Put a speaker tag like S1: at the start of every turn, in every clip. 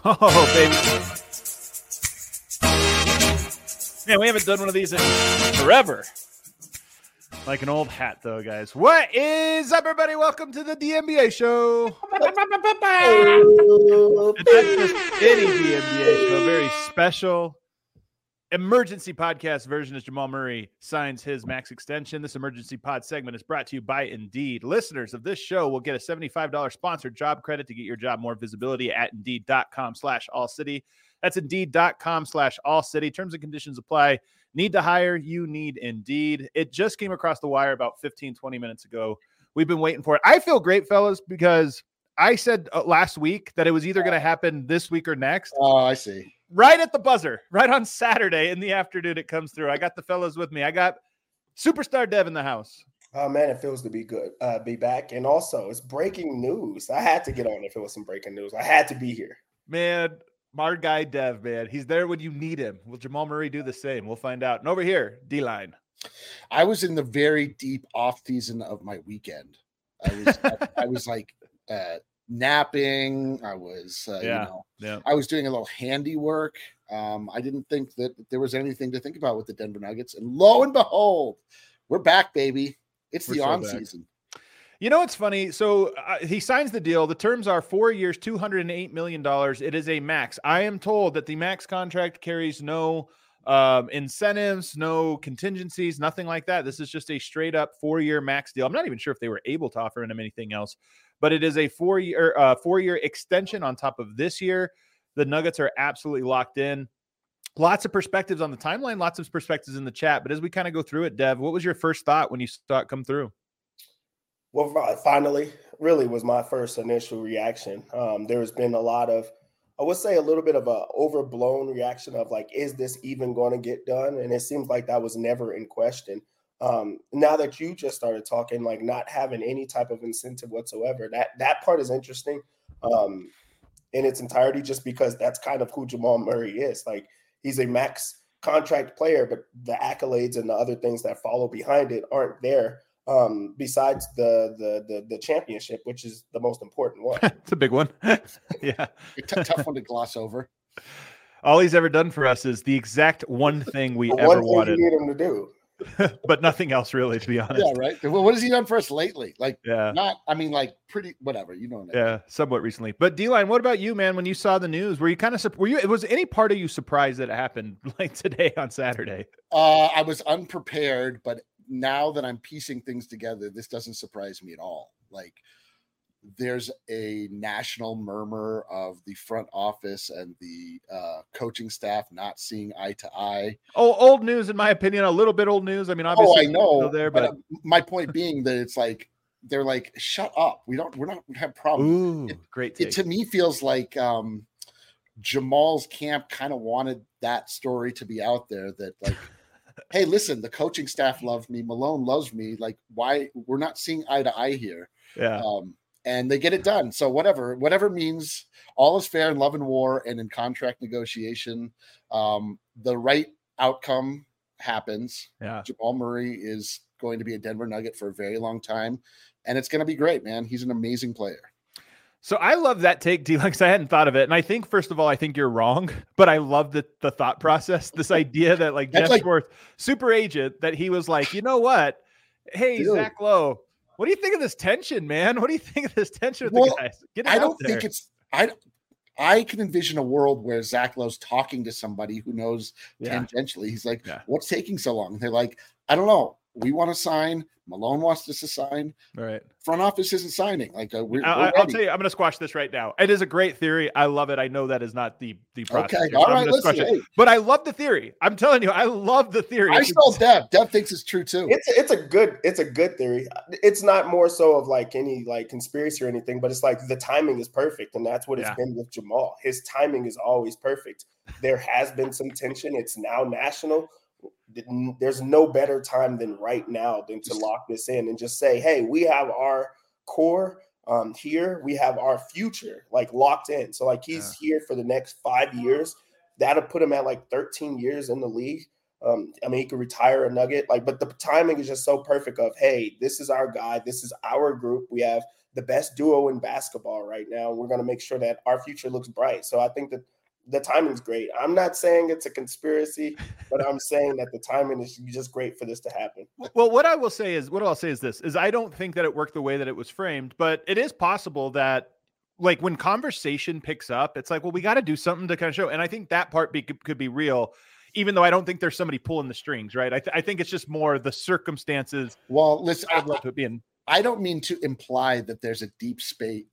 S1: Oh, baby. Man, we haven't done one of these in forever. Like an old hat, though, guys. What is up, everybody? Welcome to the DNBA show. It's not just any DNBA show, a very special emergency podcast version as Jamal Murray signs his max extension. This emergency pod segment is brought to you by Indeed. Listeners of this show will get a $75 sponsored job credit to get your job more visibility at Indeed.com/AllCity. That's Indeed.com/AllCity. Terms and conditions apply. Need to hire? You need Indeed. It just came across the wire about 15-20 minutes ago. We've been waiting for it. I feel great, fellas, because I said last week that it was either going to happen this week or next.
S2: Oh, I see.
S1: Right at the buzzer, right on Saturday in the afternoon, it comes through. I got the fellas with me. I got Superstar Dev in the house.
S3: Oh, man, it feels to be good, be back. And also, it's breaking news. I had to get on if it was some breaking news. I had to be here.
S1: Man, our guy Dev, man. He's there when you need him. Will Jamal Murray do the same? We'll find out. And over here, D-Line.
S2: I was in the very deep off season of my weekend. I was like napping. I was, I was doing a little handiwork. I didn't think that there was anything to think about with the Denver Nuggets. And lo and behold, we're back, baby. It's the on season.
S1: You know, it's funny. So he signs the deal. The terms are 4 years, $208 million. It is a max. I am told that the max contract carries no incentives, no contingencies, nothing like that. This is just a straight up 4-year max deal. I'm not even sure if they were able to offer him anything else, but it is a 4-year extension on top of this year. The Nuggets are absolutely locked in. Lots of perspectives on the timeline, lots of perspectives in the chat. But as we kind of go through it, Dev, what was your first thought when you saw it come through?
S3: Well, finally, really was my first initial reaction. There has been a lot of, I would say, a little bit of a overblown reaction of like, is this even going to get done? And it seems like that was never in question. Now that you just started talking, like not having any type of incentive whatsoever, that part is interesting in its entirety, just because that's kind of who Jamal Murray is. Like, he's a max contract player, but the accolades and the other things that follow behind it aren't there. Besides the championship, which is the most important one.
S1: It's a big one. Yeah.
S2: Tough one to gloss over.
S1: All he's ever done for us is the exact one thing we ever wanted.
S3: You need him to do.
S1: But nothing else, really, to be honest.
S2: Yeah, right. Well, what has he done for us lately? Like,
S1: yeah,
S2: pretty, whatever, you know.
S1: Yeah, somewhat recently. But D-Line, what about you, man? When you saw the news, were you kind of, was any part of you surprised that it happened like today on Saturday?
S2: I was unprepared, but now that I'm piecing things together, this doesn't surprise me at all. Like, there's a national murmur of the front office and the coaching staff not seeing eye to eye.
S1: Oh, old news, in my opinion, a little bit old news. I mean, obviously,
S2: I know
S1: still there, but
S2: my point being that it's like they're like, shut up. We don't have problems.
S1: Ooh, great take.
S2: It to me feels like Jamal's camp kind of wanted that story to be out there. That like. Hey, listen, the coaching staff loved me. Malone loves me. Like, why we're not seeing eye to eye here.
S1: Yeah.
S2: And they get it done. So whatever means all is fair in love and war and in contract negotiation. The right outcome happens.
S1: Yeah.
S2: Jamal Murray is going to be a Denver Nugget for a very long time. And it's going to be great, man. He's an amazing player.
S1: So I love that take, D-Line, because I hadn't thought of it. And I think, first of all, I think you're wrong, but I love the thought process, this idea that like Jeff Schwartz, super agent, that he was like, you know what? Hey, dude. Zach Lowe, what do you think of this tension, man? What do you think of this tension with the guys? Get it
S2: I
S1: out
S2: don't
S1: there.
S2: think it's I can envision a world where Zach Lowe's talking to somebody who knows tangentially. He's like, what's taking so long? And they're like, I don't know. We want to sign. Malone wants us to sign.
S1: Right.
S2: Front office isn't signing. Like we're
S1: I'll tell you, I'm going to squash this right now. It is a great theory. I love it. I know that is not the process.
S2: Okay. All right. Listen,
S1: but I love the theory. I'm telling you, I love the theory.
S2: I saw Dev. Dev thinks it's true too.
S3: It's a good theory. It's not more so of like any like conspiracy or anything, but it's like the timing is perfect, and that's what it's been with Jamal. His timing is always perfect. There has been some tension. It's now national. There's no better time than right now than to lock this in and just say, hey, we have our core here. We have our future like locked in. So like he's here for the next 5 years. That'll put him at like 13 years in the league. I mean, he could retire a Nugget, like, but the timing is just so perfect of, hey, this is our guy. This is our group. We have the best duo in basketball right now. We're going to make sure that our future looks bright. So I think that the timing's great. I'm not saying it's a conspiracy, but I'm saying that the timing is just great for this to happen.
S1: Well, what I'll say is this, is I don't think that it worked the way that it was framed, but it is possible that, like, when conversation picks up, it's like, well, we got to do something to kind of show. And I think that part could be real, even though I don't think there's somebody pulling the strings, right? I think it's just more the circumstances.
S2: Well, listen,
S1: I
S2: don't mean to imply that there's a deep state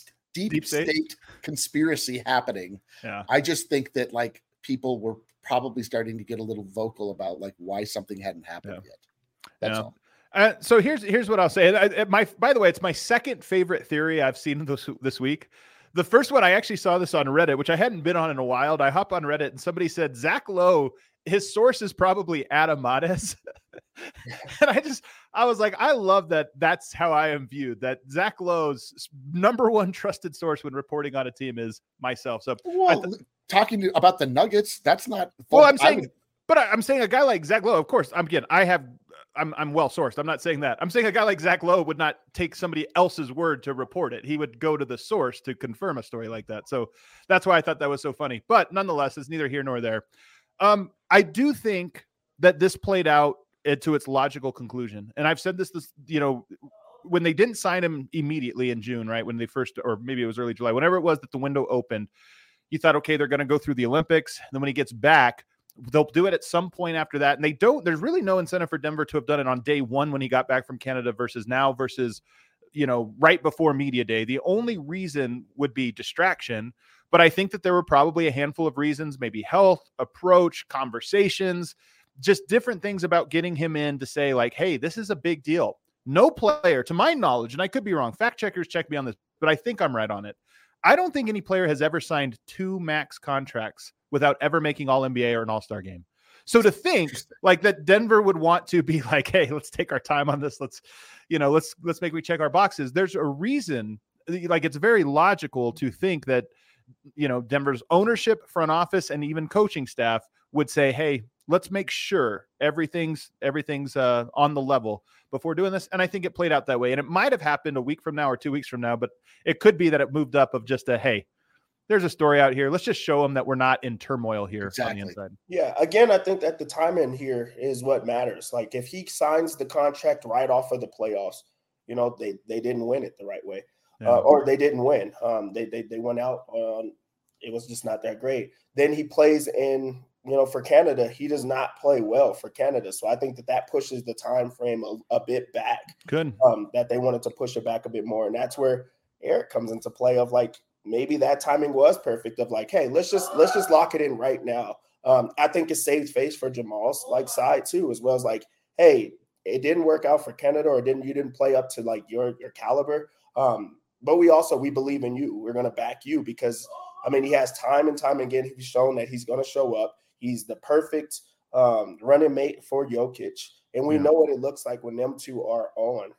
S2: conspiracy happening.
S1: Yeah.
S2: I just think that, like, people were probably starting to get a little vocal about, like, why something hadn't happened yet. That's all.
S1: So here's what I'll say. By the way, it's my second favorite theory I've seen this week. The first one, I actually saw this on Reddit, which I hadn't been on in a while. I hop on Reddit and somebody said Zach Lowe, his source is probably Adam Mares. And I was like, I love that. That's how I am viewed. That Zach Lowe's number one trusted source when reporting on a team is myself. So
S2: talking about the Nuggets, that's not.
S1: Well, I'm saying a guy like Zach Lowe, of course, I'm well sourced. I'm not saying that. I'm saying a guy like Zach Lowe would not take somebody else's word to report it. He would go to the source to confirm a story like that. So that's why I thought that was so funny. But nonetheless, it's neither here nor there. I do think that this played out to its logical conclusion. And I've said this, when they didn't sign him immediately in June, right? When they first, or maybe it was early July, whenever it was that the window opened, you thought, okay, they're going to go through the Olympics. And then when he gets back, they'll do it at some point after that. And there's really no incentive for Denver to have done it on day one when he got back from Canada versus now versus, right before media day. The only reason would be distraction. But I think that there were probably a handful of reasons, maybe health, approach, conversations, just different things about getting him in to say, like, hey, this is a big deal. No player, to my knowledge, and I could be wrong, fact checkers check me on this, but I think I'm right on it. I don't think any player has ever signed 2 max contracts without ever making All-NBA or an All-Star game. So to think like that Denver would want to be like, hey, let's take our time on this. Let's make we check our boxes. There's a reason, like, it's very logical to think that, Denver's ownership, front office, and even coaching staff would say, hey, let's make sure everything's on the level before doing this. And I think it played out that way. And it might have happened a week from now or 2 weeks from now, but it could be that it moved up of just hey, there's a story out here. Let's just show them that we're not in turmoil here on the inside.
S3: Yeah. Again, I think that the timing here is what matters. Like, if he signs the contract right off of the playoffs, they didn't win it the right way. Yeah. Or they didn't win. They went out. It was just not that great. Then he plays in, for Canada. He does not play well for Canada. So I think that pushes the time frame a bit back.
S1: Good.
S3: That they wanted to push it back a bit more. And that's where Eric comes into play of, like, maybe that timing was perfect of, like, hey, let's just lock it in right now. I think it saved face for Jamal's, like, side too, as well as, like, hey, it didn't work out for Canada, or you didn't play up to, like, your caliber. But we believe in you. We're going to back you because, he has time and time again, he's shown that he's going to show up. He's the perfect running mate for Jokic. And we know what it looks like when them two are on.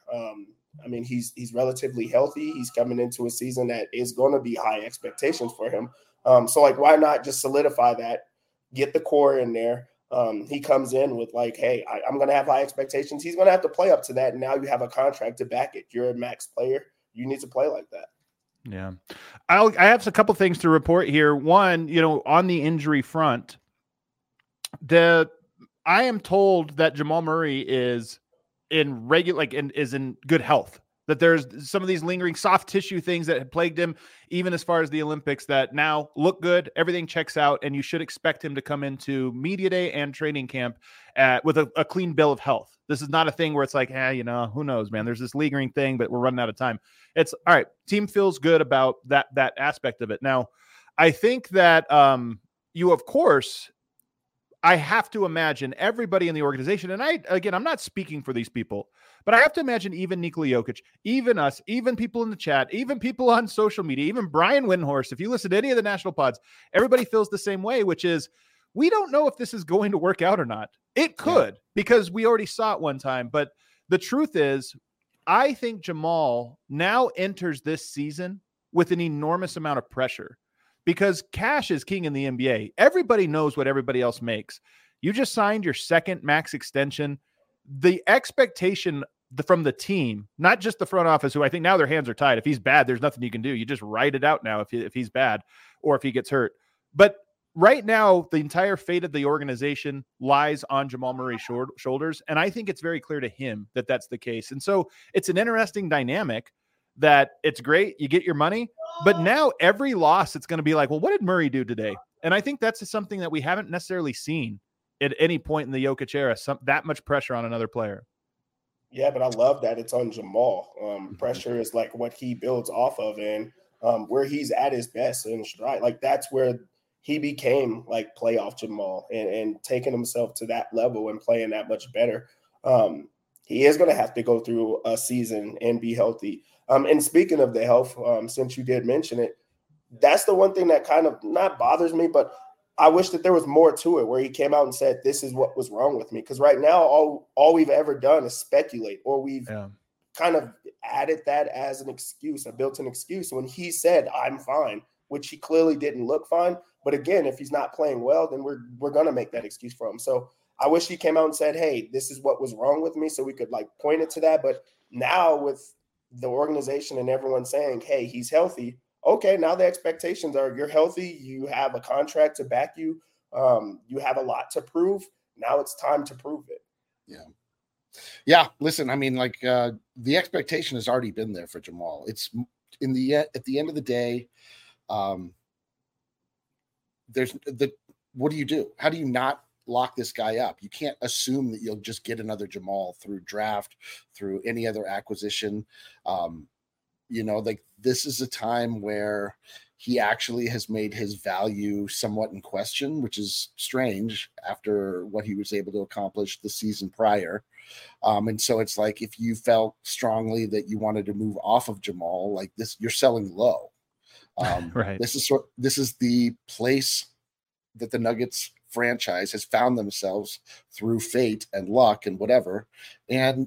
S3: He's relatively healthy. He's coming into a season that is going to be high expectations for him. So, like, why not just solidify that, get the core in there? He comes in with, like, hey, I'm going to have high expectations. He's going to have to play up to that. And now you have a contract to back it. You're a max player. You need to play like that.
S1: Yeah. I have a couple things to report here. One, on the injury front, I am told that Jamal Murray is in is in good health, that there's some of these lingering soft tissue things that had plagued him, even as far as the Olympics, that now look good. Everything checks out, and you should expect him to come into media day and training camp with a clean bill of health. This is not a thing where it's like, who knows, man, there's this lingering thing, but we're running out of time. It's all right. Team feels good about that aspect of it. Now, I think that of course, I have to imagine everybody in the organization, and I'm not speaking for these people, but I have to imagine even Nikola Jokic, even us, even people in the chat, even people on social media, even Brian Windhorst, if you listen to any of the national pods, everybody feels the same way, which is, we don't know if this is going to work out or not. It could, because we already saw it one time. But the truth is, I think Jamal now enters this season with an enormous amount of pressure, because cash is king in the NBA. Everybody knows what everybody else makes. You just signed your second max extension. The expectation from the team, not just the front office, who I think now their hands are tied. If he's bad, there's nothing you can do. You just write it out now if he's bad or if he gets hurt. But right now, the entire fate of the organization lies on Jamal Murray's shoulders. And I think it's very clear to him that that's the case. And so it's an interesting dynamic that it's great. You get your money, but now every loss, it's going to be like, well, what did Murray do today? And I think that's something that we haven't necessarily seen at any point in the Jokic era, that much pressure on another player.
S3: Yeah, but I love that it's on Jamal. Pressure is like what he builds off of, and where he's at his best and stride. Like that's where he became like playoff Jamal and taking himself to that level and playing that much better. He is going to have to go through a season and be healthy. And speaking of the health, since you did mention it, that's the one thing that kind of not bothers me, but I wish that there was more to it where he came out and said, this is what was wrong with me. Because right now, all we've ever done is speculate, or we've kind of added that as an excuse, a built-in excuse when he said, I'm fine, which he clearly didn't look fine. But again, if he's not playing well, then we're going to make that excuse for him. So I wish he came out and said, hey, this is what was wrong with me, so we could like point it to that. But now with the organization and everyone saying, hey, he's healthy, okay, now the expectations are you're healthy, you have a contract to back you, you have a lot to prove. Now it's time to prove it.
S2: Yeah. Listen, I mean, like the expectation has already been there for Jamal. It's at the end of the day, what do you do? How do you not lock this guy up? You can't assume that you'll just get another Jamal through draft, through any other acquisition. Like this is a time where he actually has made his value somewhat in question, which is strange after what he was able to accomplish the season prior. And so it's like, if you felt strongly that you wanted to move off of Jamal like this, you're selling low.
S1: Right.
S2: This is the place that the Nuggets franchise has found themselves through fate and luck and whatever. And,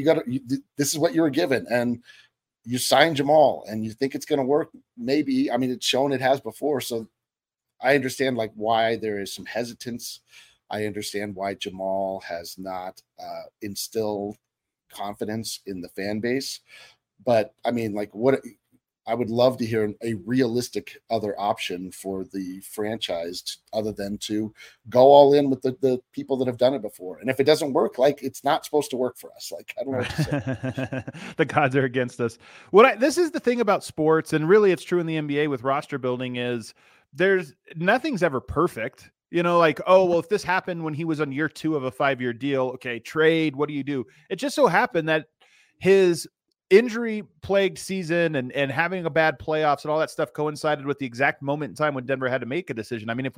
S2: this is what you were given. And you sign Jamal and you think it's going to work. Maybe, I mean, it's shown it has before. So I understand like why there is some hesitance. I understand why Jamal has not instilled confidence in the fan base, but I mean, like I would love to hear a realistic other option for the franchise other than to go all in with the people that have done it before. And if it doesn't work, like it's not supposed to work for us. Like, I don't know what to say.
S1: The gods are against us. This is the thing about sports, and really it's true in the NBA with roster building, is nothing's ever perfect. Like, oh, well, if this happened when he was on year 2 of a 5-year deal, okay, trade, what do you do? It just so happened that his injury-plagued season and having a bad playoffs and all that stuff coincided with the exact moment in time when Denver had to make a decision. I mean,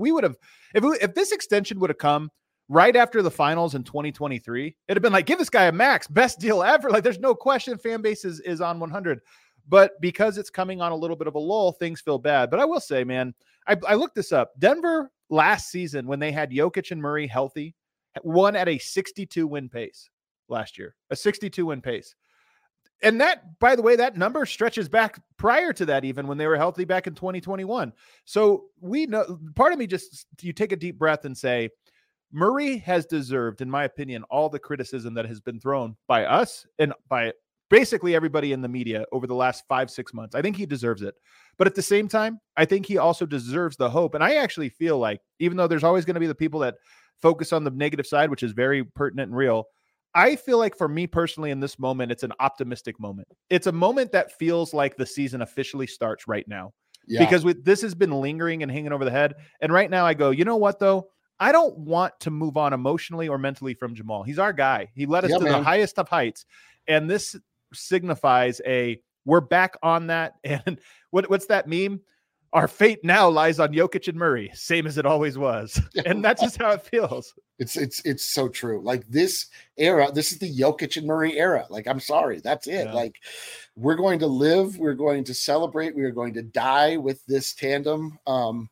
S1: if this extension would have come right after the finals in 2023, it'd have been like, give this guy a max, best deal ever. Like, there's no question fan base is on 100. But because it's coming on a little bit of a lull, things feel bad. But I will say, man, I looked this up. Denver last season, when they had Jokic and Murray healthy, won at a 62-win pace last year, a 62-win pace. And that, by the way, that number stretches back prior to that, even when they were healthy back in 2021. So we know, part of me just, you take a deep breath and say, Murray has deserved, in my opinion, all the criticism that has been thrown by us and by basically everybody in the media over the last 5-6 months. I think he deserves it. But at the same time, I think he also deserves the hope. And I actually feel like, even though there's always going to be the people that focus on the negative side, which is very pertinent and real, I feel like for me personally in this moment, it's an optimistic moment. It's a moment that feels like the season officially starts right now. Yeah. Because this has been lingering and hanging over the head. And right now I go, you know what, though? I don't want to move on emotionally or mentally from Jamal. He's our guy. He led us to the highest of heights. And this signifies we're back on that. And what's that meme? Our fate now lies on Jokic and Murray, same as it always was. And that's just how it feels.
S2: It's so true. Like this era, this is the Jokic and Murray era. Like, I'm sorry, that's it. Yeah. Like, we're going to live, we're going to celebrate, we are going to die with this tandem. We'll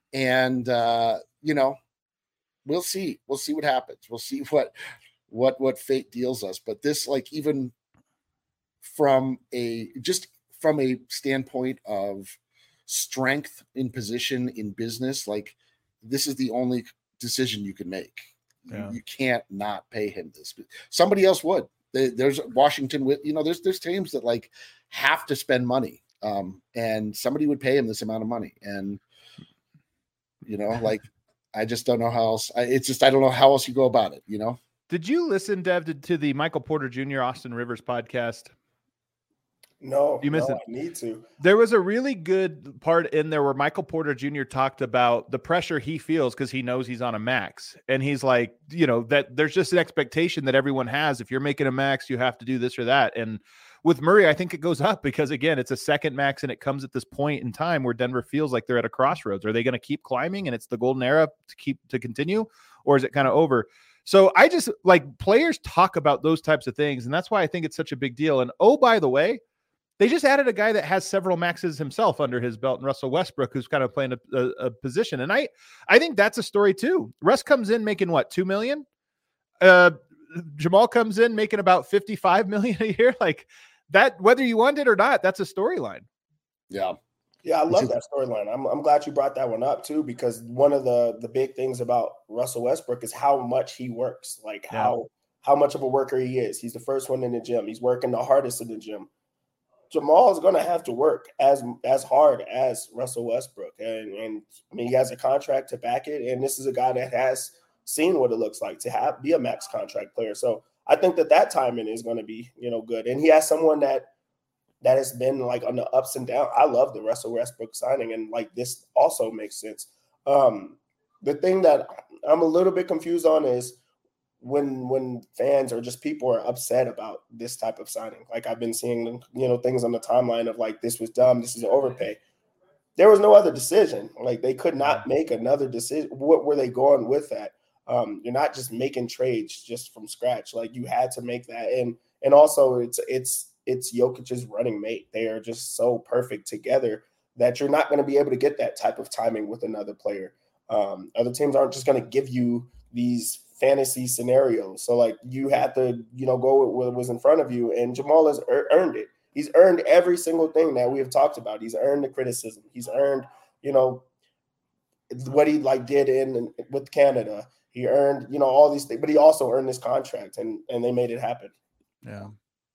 S2: see what happens. We'll see what fate deals us. But this, like, even from a standpoint of strength in position in business, like, this is the only decision you can make. Yeah. You can't not pay him this. Somebody else would. There's Washington with, there's teams that like have to spend money, and somebody would pay him this amount of money, and like I just don't know how else. I don't know how else you go about it.
S1: Did you listen, Dev, to the Michael Porter Jr. Austin Rivers podcast?
S3: No,
S1: you missed it.
S3: I need to.
S1: There was a really good part in there where Michael Porter Jr. talked about the pressure he feels because he knows he's on a max. And he's like, that there's just an expectation that everyone has. If you're making a max, you have to do this or that. And with Murray, I think it goes up because, again, it's a second max and it comes at this point in time where Denver feels like they're at a crossroads. Are they going to keep climbing and it's the golden era to continue, or is it kind of over? So I just like players talk about those types of things. And that's why I think it's such a big deal. And oh, by the way, they just added a guy that has several maxes himself under his belt, and Russell Westbrook, who's kind of playing a position. And I think that's a story too. Russ comes in making what, $2 million? Jamal comes in making about $55 million a year. Like that, whether you want it or not, that's a storyline.
S2: Yeah.
S3: Yeah, I love that storyline. I'm glad you brought that one up too, because one of the big things about Russell Westbrook is how much he works, like how much of a worker he is. He's the first one in the gym. He's working the hardest in the gym. Jamal is going to have to work as hard as Russell Westbrook. And I mean, he has a contract to back it. And this is a guy that has seen what it looks like to be a max contract player. So I think that timing is going to be, good. And he has someone that has been like on the ups and downs. I love the Russell Westbrook signing. And like, this also makes sense. The thing that I'm a little bit confused on is when fans or just people are upset about this type of signing. Like I've been seeing, things on the timeline of like, this was dumb, this is an overpay. There was no other decision. Like they could not make another decision. What were they going with that? You're not just making trades just from scratch. Like you had to make that. And also it's Jokic's running mate. They are just so perfect together that you're not going to be able to get that type of timing with another player. Other teams aren't just going to give you these fantasy scenarios. So like you had to, go with what was in front of you, and Jamal has earned it. He's earned every single thing that we have talked about. He's earned the criticism. He's earned, what he like did with Canada. He earned, all these things, but he also earned this contract, and they made it happen.
S1: Yeah.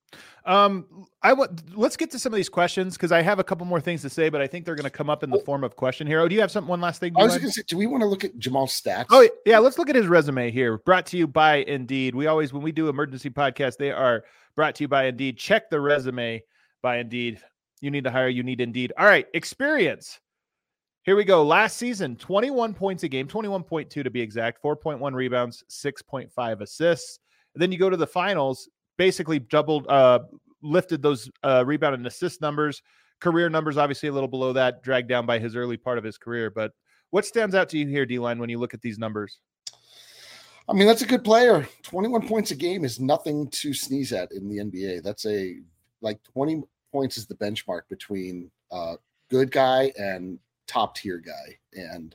S1: Let's get to some of these questions because I have a couple more things to say, but I think they're going to come up in the form of question here. Oh, do you have one last thing?
S2: I was going to say, do we want to look at Jamal's stats?
S1: Oh yeah. Let's look at his resume here. Brought to you by Indeed. We always, when we do emergency podcasts, they are brought to you by Indeed. Check the resume by Indeed. You need to hire, you need Indeed. All right. Experience. Here we go. Last season, 21 points a game, 21.2 to be exact, 4.1 rebounds, 6.5 assists. And then you go to the finals, basically doubled, lifted those rebound and assist numbers. Career numbers, obviously a little below that, dragged down by his early part of his career. But what stands out to you here, D-Line, when you look at these numbers?
S2: I mean, that's a good player. 21 points a game is nothing to sneeze at in the NBA. That's 20 points is the benchmark between good guy and top tier guy. And,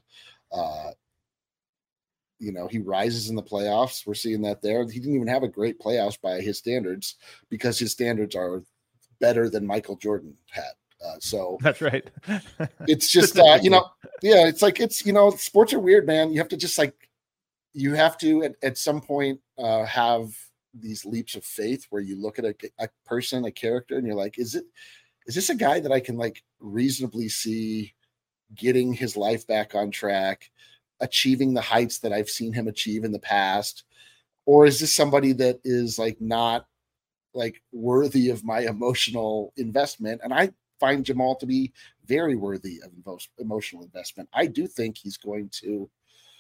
S2: he rises in the playoffs. We're seeing that there. He didn't even have a great playoffs by his standards because his standards are better than Michael Jordan had. So
S1: that's right.
S2: It's just, it's like, sports are weird, man. You have to just you have to at some point have these leaps of faith where you look at a person, a character, and you're like, is this a guy that I can reasonably see getting his life back on track, achieving the heights that I've seen him achieve in the past? Or is this somebody that is not worthy of my emotional investment? And I find Jamal to be very worthy of emotional investment. I do think he's going to,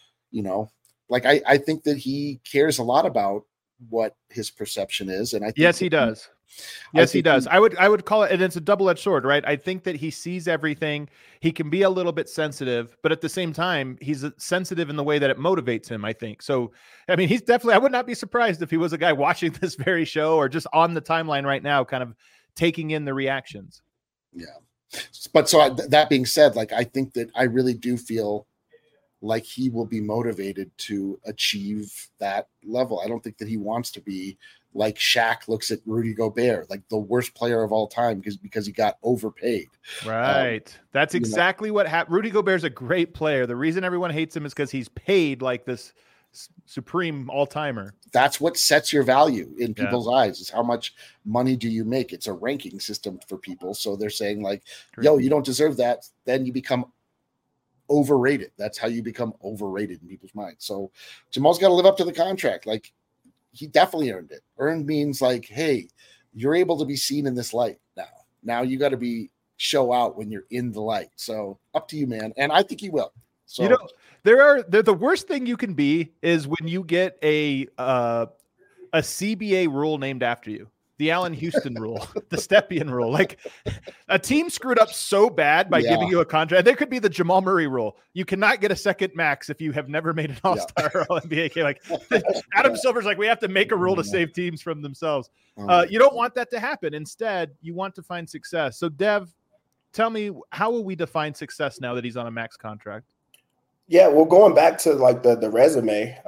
S2: I think that he cares a lot about what his perception is. And I think
S1: yes, he does. Yes, he does. I would call it, and it's a double-edged sword, right? I think that he sees everything. He can be a little bit sensitive, but at the same time, he's sensitive in the way that it motivates him, I think. So, I mean, he's definitely, I would not be surprised if he was a guy watching this very show or just on the timeline right now, kind of taking in the reactions.
S2: Yeah. But so that being said, I think that I really do feel like he will be motivated to achieve that level. I don't think that he wants to be like Shaq looks at Rudy Gobert, like the worst player of all time because he got overpaid.
S1: Right. That's exactly what happened. Rudy Gobert's a great player. The reason everyone hates him is because he's paid like this supreme all-timer.
S2: That's what sets your value in people's eyes, is how much money do you make. It's a ranking system for people. So they're saying like, yo, you don't deserve that. Then you become overrated. That's how you become overrated in people's minds. So Jamal's got to live up to the contract. Like, he definitely earned it. Earned means like, hey, you're able to be seen in this light now. Now you got to show out when you're in the light. So up to you, man. And I think he will. So,
S1: you know, the worst thing you can be is when you get a CBA rule named after you. The Allen Houston rule, the Stepien rule. Like, a team screwed up so bad by giving you a contract. There could be the Jamal Murray rule. You cannot get a second max if you have never made an All-Star or All-NBA. Like, Adam Silver's like, we have to make a rule to save teams from themselves. You don't want that to happen. Instead, you want to find success. So, Dev, tell me, how will we define success now that he's on a max contract?
S3: Yeah, well, going back to like the resume,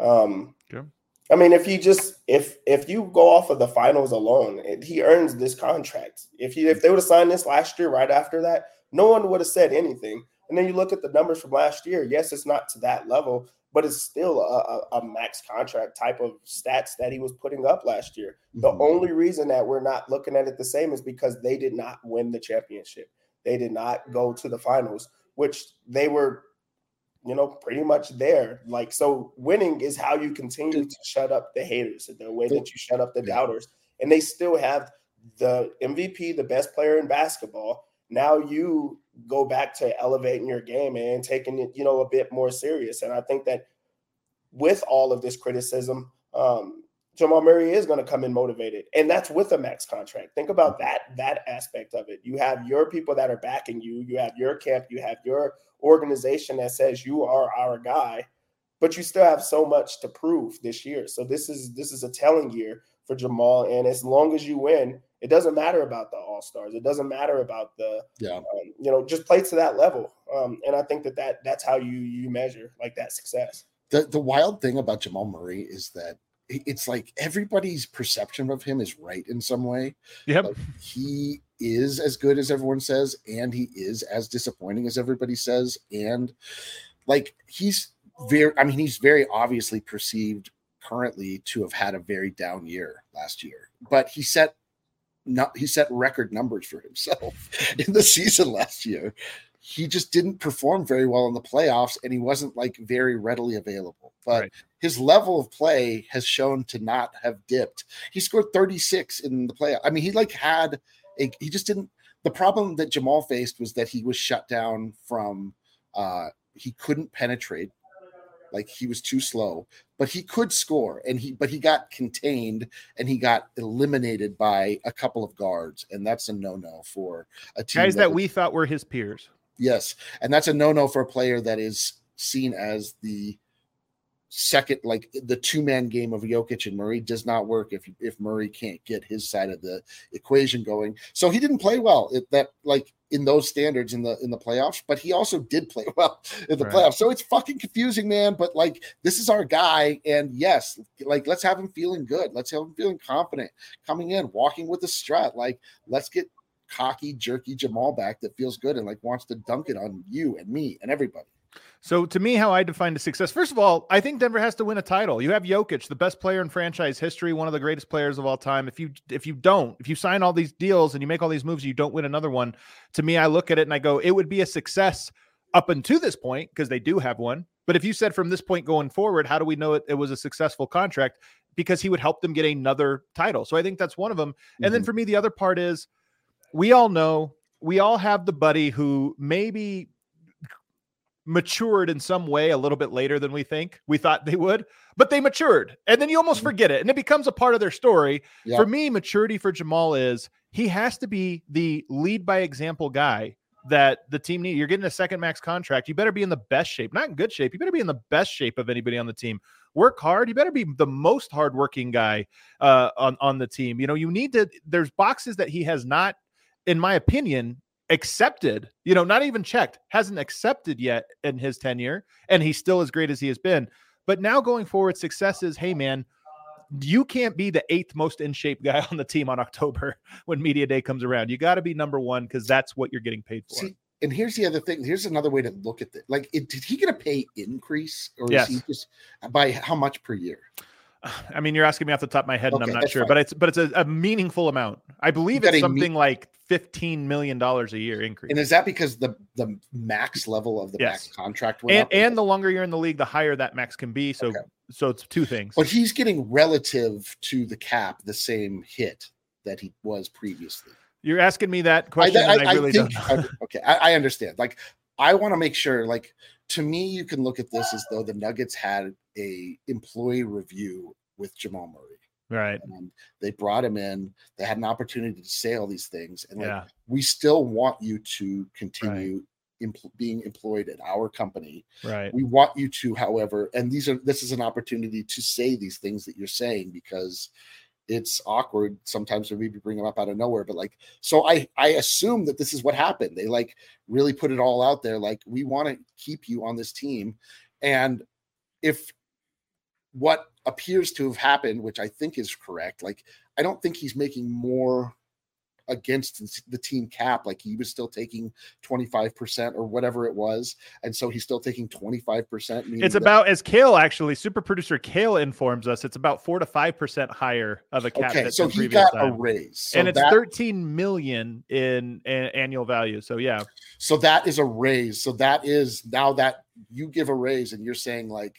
S3: I mean, if you go off of the finals alone, he earns this contract. If they would have signed this last year, right after that, no one would have said anything. And then you look at the numbers from last year. Yes, it's not to that level, but it's still a max contract type of stats that he was putting up last year. Mm-hmm. The only reason that we're not looking at it the same is because they did not win the championship. They did not go to the finals, which they were, pretty much there. Like, so winning is how you continue to shut up the haters, the way that you shut up the doubters. And they still have the MVP, the best player in basketball. Now you go back to elevating your game and taking it, a bit more serious. And I think that with all of this criticism, Jamal Murray is going to come in motivated, and that's with a max contract. Think about that aspect of it. You have your people that are backing you. You have your camp. You have your organization that says you are our guy, but you still have so much to prove this year. So this is a telling year for Jamal, and as long as you win, it doesn't matter about the All-Stars. It doesn't matter about the just play to that level. And I think that's how you measure like that success.
S2: The wild thing about Jamal Murray is that it's like everybody's perception of him is right in some way.
S1: Yep.
S2: Like, he is as good as everyone says, and he is as disappointing as everybody says. And like, he's very obviously perceived currently to have had a very down year last year, but he set record numbers for himself in the season last year. He just didn't perform very well in the playoffs, and he wasn't like very readily available. But his level of play has shown to not have dipped. He scored 36 in the playoff. I mean, he just didn't. The problem that Jamal faced was that he was shut down from. He couldn't penetrate, like he was too slow. But he could score, but he got contained and he got eliminated by a couple of guards, and that's a no-no for a team.
S1: Guys that we thought were his peers.
S2: Yes, and that's a no-no for a player that is seen as the second, like the two-man game of Jokic and Murray does not work if Murray can't get his side of the equation going. So he didn't play well in those standards in the playoffs, but he also did play well in the playoffs. So it's fucking confusing, man. But like, this is our guy, and yes, like, let's have him feeling good. Let's have him feeling confident coming in, walking with a strut. Like, let's get cocky, jerky Jamal back that feels good and like wants to dunk it on you and me and everybody.
S1: So to me, how I define the success, first of all, I think Denver has to win a title. You have Jokic, the best player in franchise history, one of the greatest players of all time. If you sign all these deals and you make all these moves, you don't win another one. To me, I look at it and I go, it would be a success up until this point because they do have one. But if you said from this point going forward, how do we know it was a successful contract? Because he would help them get another title. So I think that's one of them. Mm-hmm. And then for me, the other part is we all have the buddy who maybe matured in some way a little bit later than we thought they would, but they matured, and then you almost forget it and it becomes a part of their story. Yeah. For me, maturity for Jamal is he has to be the lead by example guy that the team needs. You're getting a second max contract. You better be in the best shape, not in good shape. You better be in the best shape of anybody on the team. Work hard. You better be the most hardworking guy on the team. You need to, there's boxes that he has not, in my opinion, accepted, not even checked, hasn't accepted yet in his tenure, and he's still as great as he has been. But now going forward, success is, hey man, you can't be the 8th most in shape guy on the team on October when media day comes around. You got to be number one because that's what you're getting paid for.
S2: See, And here's the other thing. Here's another way to look at it. Like, did he get a pay increase, or
S1: Yes.
S2: is he just by how much per year?
S1: I mean, you're asking me off the top of my head, and
S2: Okay,
S1: I'm not
S2: that's
S1: sure,
S2: fine.
S1: but it's a meaningful amount. I believe
S2: got
S1: it's
S2: a
S1: something like $15 million a year increase.
S2: And is that because the max level of the
S1: Yes.
S2: max contract went up?
S1: And the longer you're in the league, the higher that max can be. So
S2: Okay.
S1: so it's two things.
S2: But he's getting relative to the cap the same hit that he was previously.
S1: You're asking me that question, and I really don't know.
S2: Okay, I understand. Like, I want to make sure, like, to me, you can look at this as though the Nuggets had a employee review with Jamal Murray.
S1: Right.
S2: And they brought him in. They had an opportunity to say all these things. And like,
S1: Yeah.
S2: we still want you to continue being employed at our company.
S1: Right.
S2: We want you to, however, and this is an opportunity to say these things that you're saying, because it's awkward sometimes when we bring them up out of nowhere. But like, so I assume that this is what happened. They like really put it all out there. Like, we want to keep you on this team. And if what appears to have happened, which I think is correct, like, I don't think he's making more against the team cap. Like, he was still taking 25% or whatever it was, and so he's still taking 25%.
S1: It's about, as Kale, actually, super producer Kale informs us, it's about 4 to 5% higher of a cap.
S2: Okay, so he got a raise, so
S1: and it's $13 million in annual value. So yeah,
S2: so that is a raise. So that is, now that you give a raise and you're saying like,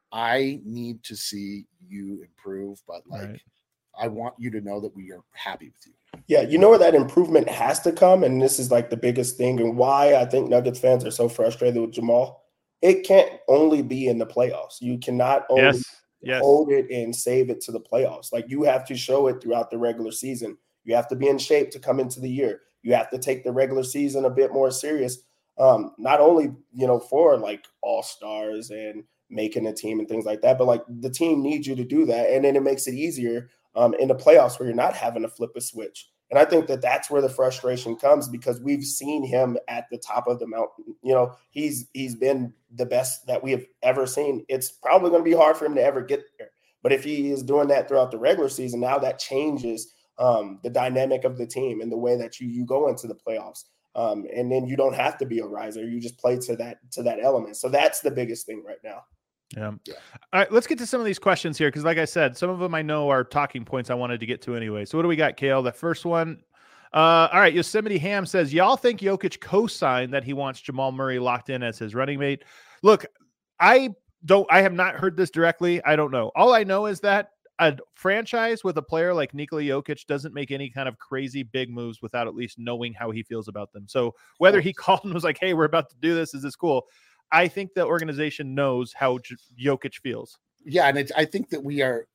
S2: I need to see you improve, but like,
S1: right.
S2: I want you to know that we are happy with you.
S3: Yeah, you know where that improvement has to come, and this is like the biggest thing, and why I think Nuggets fans are so frustrated with Jamal. It can't only be in the playoffs. You cannot only hold it and save it to the playoffs. Like, you have to show it throughout the regular season. You have to be in shape to come into the year. You have to take the regular season a bit more serious. Not only, for like all-stars and making a team and things like that, but like, the team needs you to do that. And then it makes it easier in the playoffs where you're not having to flip a switch. And I think that that's where the frustration comes, because we've seen him at the top of the mountain. He's been the best that we have ever seen. It's probably going to be hard for him to ever get there. But if he is doing that throughout the regular season, now that changes the dynamic of the team and the way that you go into the playoffs. And then you don't have to be a riser. You just play to that element. So that's the biggest thing right now.
S1: Yeah. All right, let's get to some of these questions here, because like I said, some of them I know are talking points I wanted to get to anyway. So what do we got, Kale? The first one. All right, Yosemite Ham says, y'all think Jokic co-signed that he wants Jamal Murray locked in as his running mate? Look, I have not heard this directly. I don't know. All I know is that a franchise with a player like Nikola Jokic doesn't make any kind of crazy big moves without at least knowing how he feels about them. So whether he called and was like, hey, we're about to do this, is this cool? I think the organization knows how Jokic feels. Yeah,
S2: and I think that we are.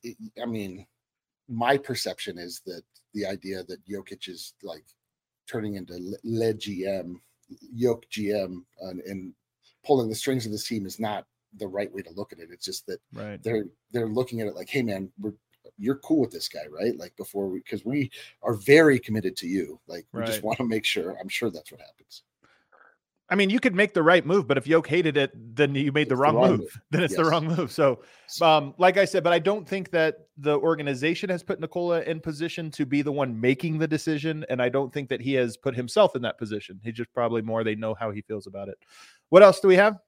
S2: I mean, my perception is that the idea that Jokic is like turning into le GM, Jokic GM, and pulling the strings of this team is not the right way to look at it. It's just that they're looking at it like, hey, man, you're cool with this guy, right? Like, because we are very committed to you. Like, we just want to make sure. I'm sure that's what happens.
S1: I mean, you could make the right move, but if Yoke hated it, then you made the wrong move. Then it's the wrong move. So, like I said, but I don't think that the organization has put Nikola in position to be the one making the decision. And I don't think that he has put himself in that position. He just probably they know how he feels about it. What else do we have?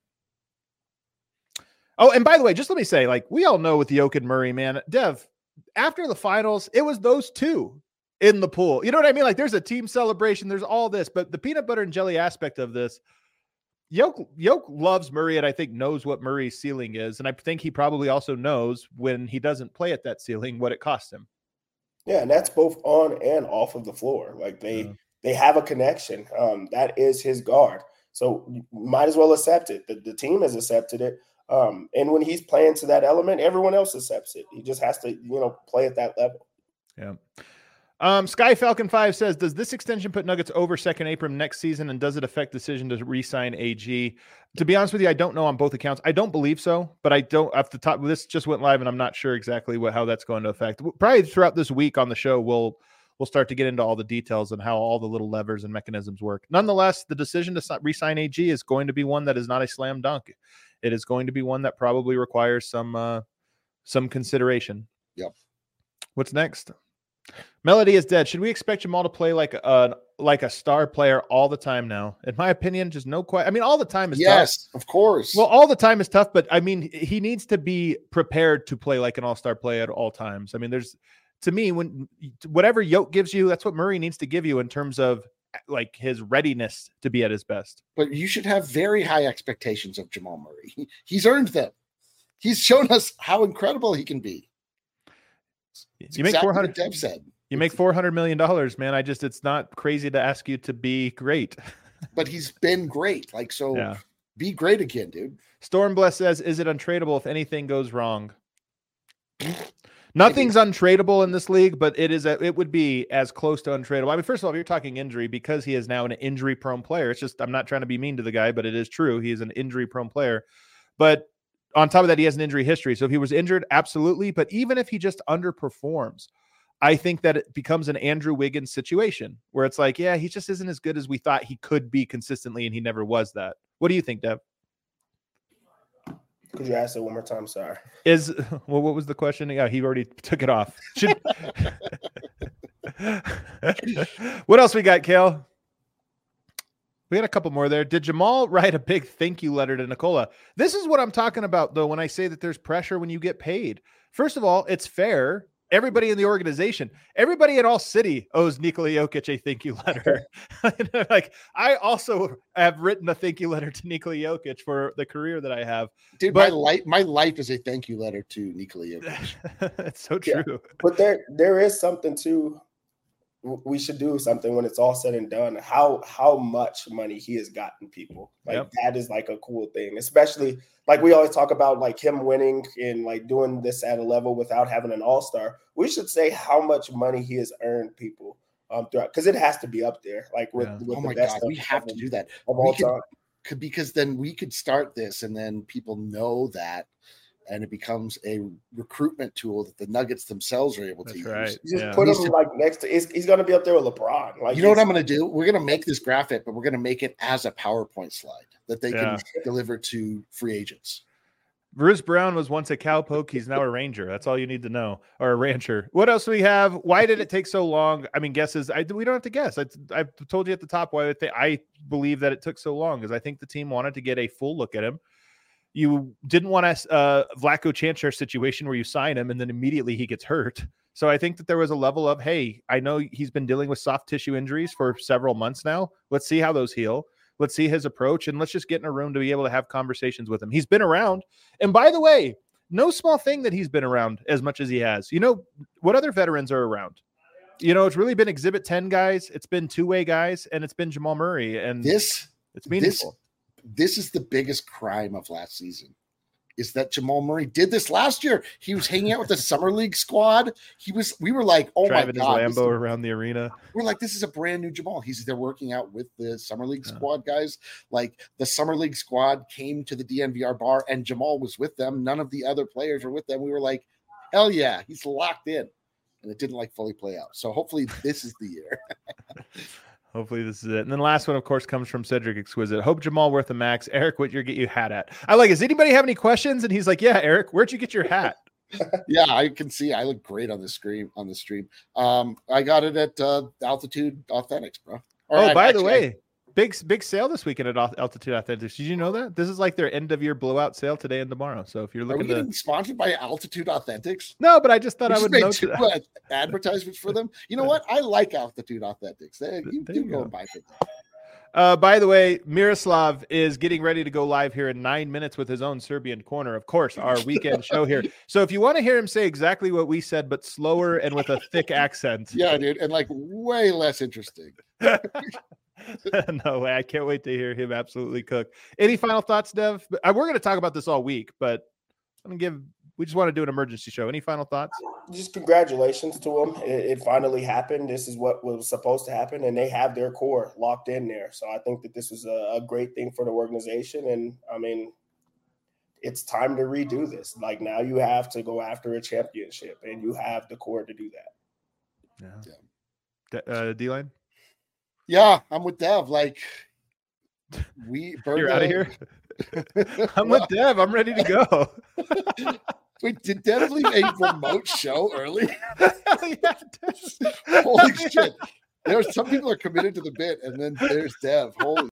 S1: Oh, and by the way, just let me say, like, we all know with Yoke and Murray, man, Dev, after the finals, it was those two in the pool. You know what I mean? Like, there's a team celebration, there's all this, but the peanut butter and jelly aspect of this, Yoke loves Murray, and I think knows what Murray's ceiling is. And I think he probably also knows when he doesn't play at that ceiling, what it costs him.
S3: Yeah. And that's both on and off of the floor. Like, they have a connection. That is his guard. So you might as well accept it. The team has accepted it. And when he's playing to that element, everyone else accepts it. He just has to, play at that level.
S1: Yeah. Sky Falcon 5 says, does this extension put Nuggets over second Abram next season, and does it affect decision to re-sign AG? To be honest with you, I don't know on both accounts. I don't believe so, but I don't off the top. This just went live, and I'm not sure exactly how that's going to affect. Probably throughout this week on the show, we'll start to get into all the details and how all the little levers and mechanisms work. Nonetheless, the decision to re-sign AG is going to be one that is not a slam dunk. It is going to be one that probably requires some consideration.
S2: Yep.
S1: What's next? Melody is dead. Should we expect Jamal to play like like a star player all the time now. In my opinion, just no question. I mean, all the time is
S2: yes,
S1: tough.
S2: of course.
S1: Well, all the time is tough, but I mean, he needs to be prepared to play like an all-star play at all times. I mean, to me, when whatever Yoke gives you, that's what Murray needs to give you in terms of like his readiness to be at his best.
S2: But you should have very high expectations of Jamal Murray. He's earned them. He's shown us how incredible he can be.
S1: You make 400.
S2: Dev said.
S1: You make $400 million, man. It's not crazy to ask you to be great.
S2: But he's been great. Like, so
S1: yeah.
S2: Be great again, dude.
S1: Stormbless says, is it untradeable if anything goes wrong? Nothing's untradeable in this league, but it would be as close to untradeable. I mean, first of all, if you're talking injury, because he is now an injury-prone player, it's just, I'm not trying to be mean to the guy, but it is true. He is an injury-prone player. But on top of that, he has an injury history. So if he was injured, absolutely. But even if he just underperforms, I think that it becomes an Andrew Wiggins situation where it's like, yeah, he just isn't as good as we thought he could be consistently, and he never was that. What do you think, Dev?
S3: Could you ask it one more time? Sorry.
S1: What was the question? Yeah, he already took it off. What else we got, Kale? We had a couple more there. Did Jamal write a big thank you letter to Nikola? This is what I'm talking about, though, when I say that there's pressure when you get paid. First of all, it's fair. Everybody in the organization, everybody in all city owes Nikola Jokic a thank you letter. Like, I also have written a thank you letter to Nikola Jokic for the career that I have.
S2: Dude,
S1: but
S2: my life is a thank you letter to Nikola Jokic.
S1: It's so true.
S3: Yeah. But there is something too. We should do something when it's all said and done. How much money he has gotten people. Like, that is like a cool thing, especially like we always talk about, like him winning and like doing this at a level without having an all-star. We should say how much money he has earned people throughout, because it has to be up there. Like with
S2: oh
S3: the
S2: my
S3: best
S2: God, we have to do that
S3: of all time.
S2: Because then we could start this, and then people know that. And it becomes a recruitment tool that the Nuggets themselves are able to use.
S1: Right.
S3: Just put him like next to. He's going to be up there with LeBron. Like,
S2: you know what I'm going to do? We're going to make this graphic, but we're going to make it as a PowerPoint slide that they can deliver to free agents.
S1: Bruce Brown was once a cowpoke. He's now a Ranger. That's all you need to know, or a rancher. What else do we have? Why did it take so long? I mean, guesses. We don't have to guess. I told you at the top why I believe that it took so long, because I think the team wanted to get a full look at him. You didn't want a Vlatko Čančar situation where you sign him and then immediately he gets hurt. So I think that there was a level of, hey, I know he's been dealing with soft tissue injuries for several months now. Let's see how those heal. Let's see his approach, and let's just get in a room to be able to have conversations with him. He's been around. And by the way, no small thing that he's been around as much as he has. You know, what other veterans are around? You know, it's really been Exhibit 10 guys. It's been two-way guys, and it's been Jamal Murray. And it's meaningful.
S2: This is the biggest crime of last season, is that Jamal Murray did this last year. He was hanging out with the summer league squad. We were like, oh
S1: driving
S2: my God.
S1: His Lambo around the arena.
S2: We're like, this is a brand new Jamal. They're working out with the summer league squad guys. Like, the summer league squad came to the DNVR bar and Jamal was with them. None of the other players were with them. We were like, hell yeah, he's locked in. And it didn't like fully play out. So hopefully this is the year.
S1: Hopefully this is it. And then last one, of course, comes from Cedric Exquisite. Hope Jamal worth a max. Eric, what you get your hat at? I like, does anybody have any questions? And he's like, yeah, Eric, where'd you get your hat?
S2: Yeah, I can see. I look great on the stream. I got it at Altitude Authentics, bro.
S1: By the way, big sale this weekend at Altitude Authentics. Did you know that? This is like their end of year blowout sale today and tomorrow. So if you're looking
S2: getting sponsored by Altitude Authentics?
S1: No, but I just thought I would note
S2: that. Advertisements for them. You know what? I like Altitude Authentics. You do go and buy for them.
S1: By the way, Miroslav is getting ready to go live here in 9 minutes with his own Serbian corner, of course, our weekend show here. So if you want to hear him say exactly what we said, but slower and with a thick accent.
S2: Yeah, dude. And like way less interesting.
S1: No way. I can't wait to hear him absolutely cook. Any final thoughts, Dev? We're going to talk about this all week, but we just want to do an emergency show. Any final thoughts?
S3: Just congratulations to them. It finally happened. This is what was supposed to happen, and they have their core locked in there. So I think that this is a great thing for the organization. And I mean, it's time to redo this. Like, now you have to go after a championship, and you have the core to do that.
S1: Yeah. D-Line?
S2: Yeah, I'm with Dev. Like,
S1: you're out of here. I'm with Dev. I'm ready to go.
S2: Wait, did Dev leave a remote show early?
S1: Yeah,
S2: Holy shit! There's some people are committed to the bit, and then there's Dev. Holy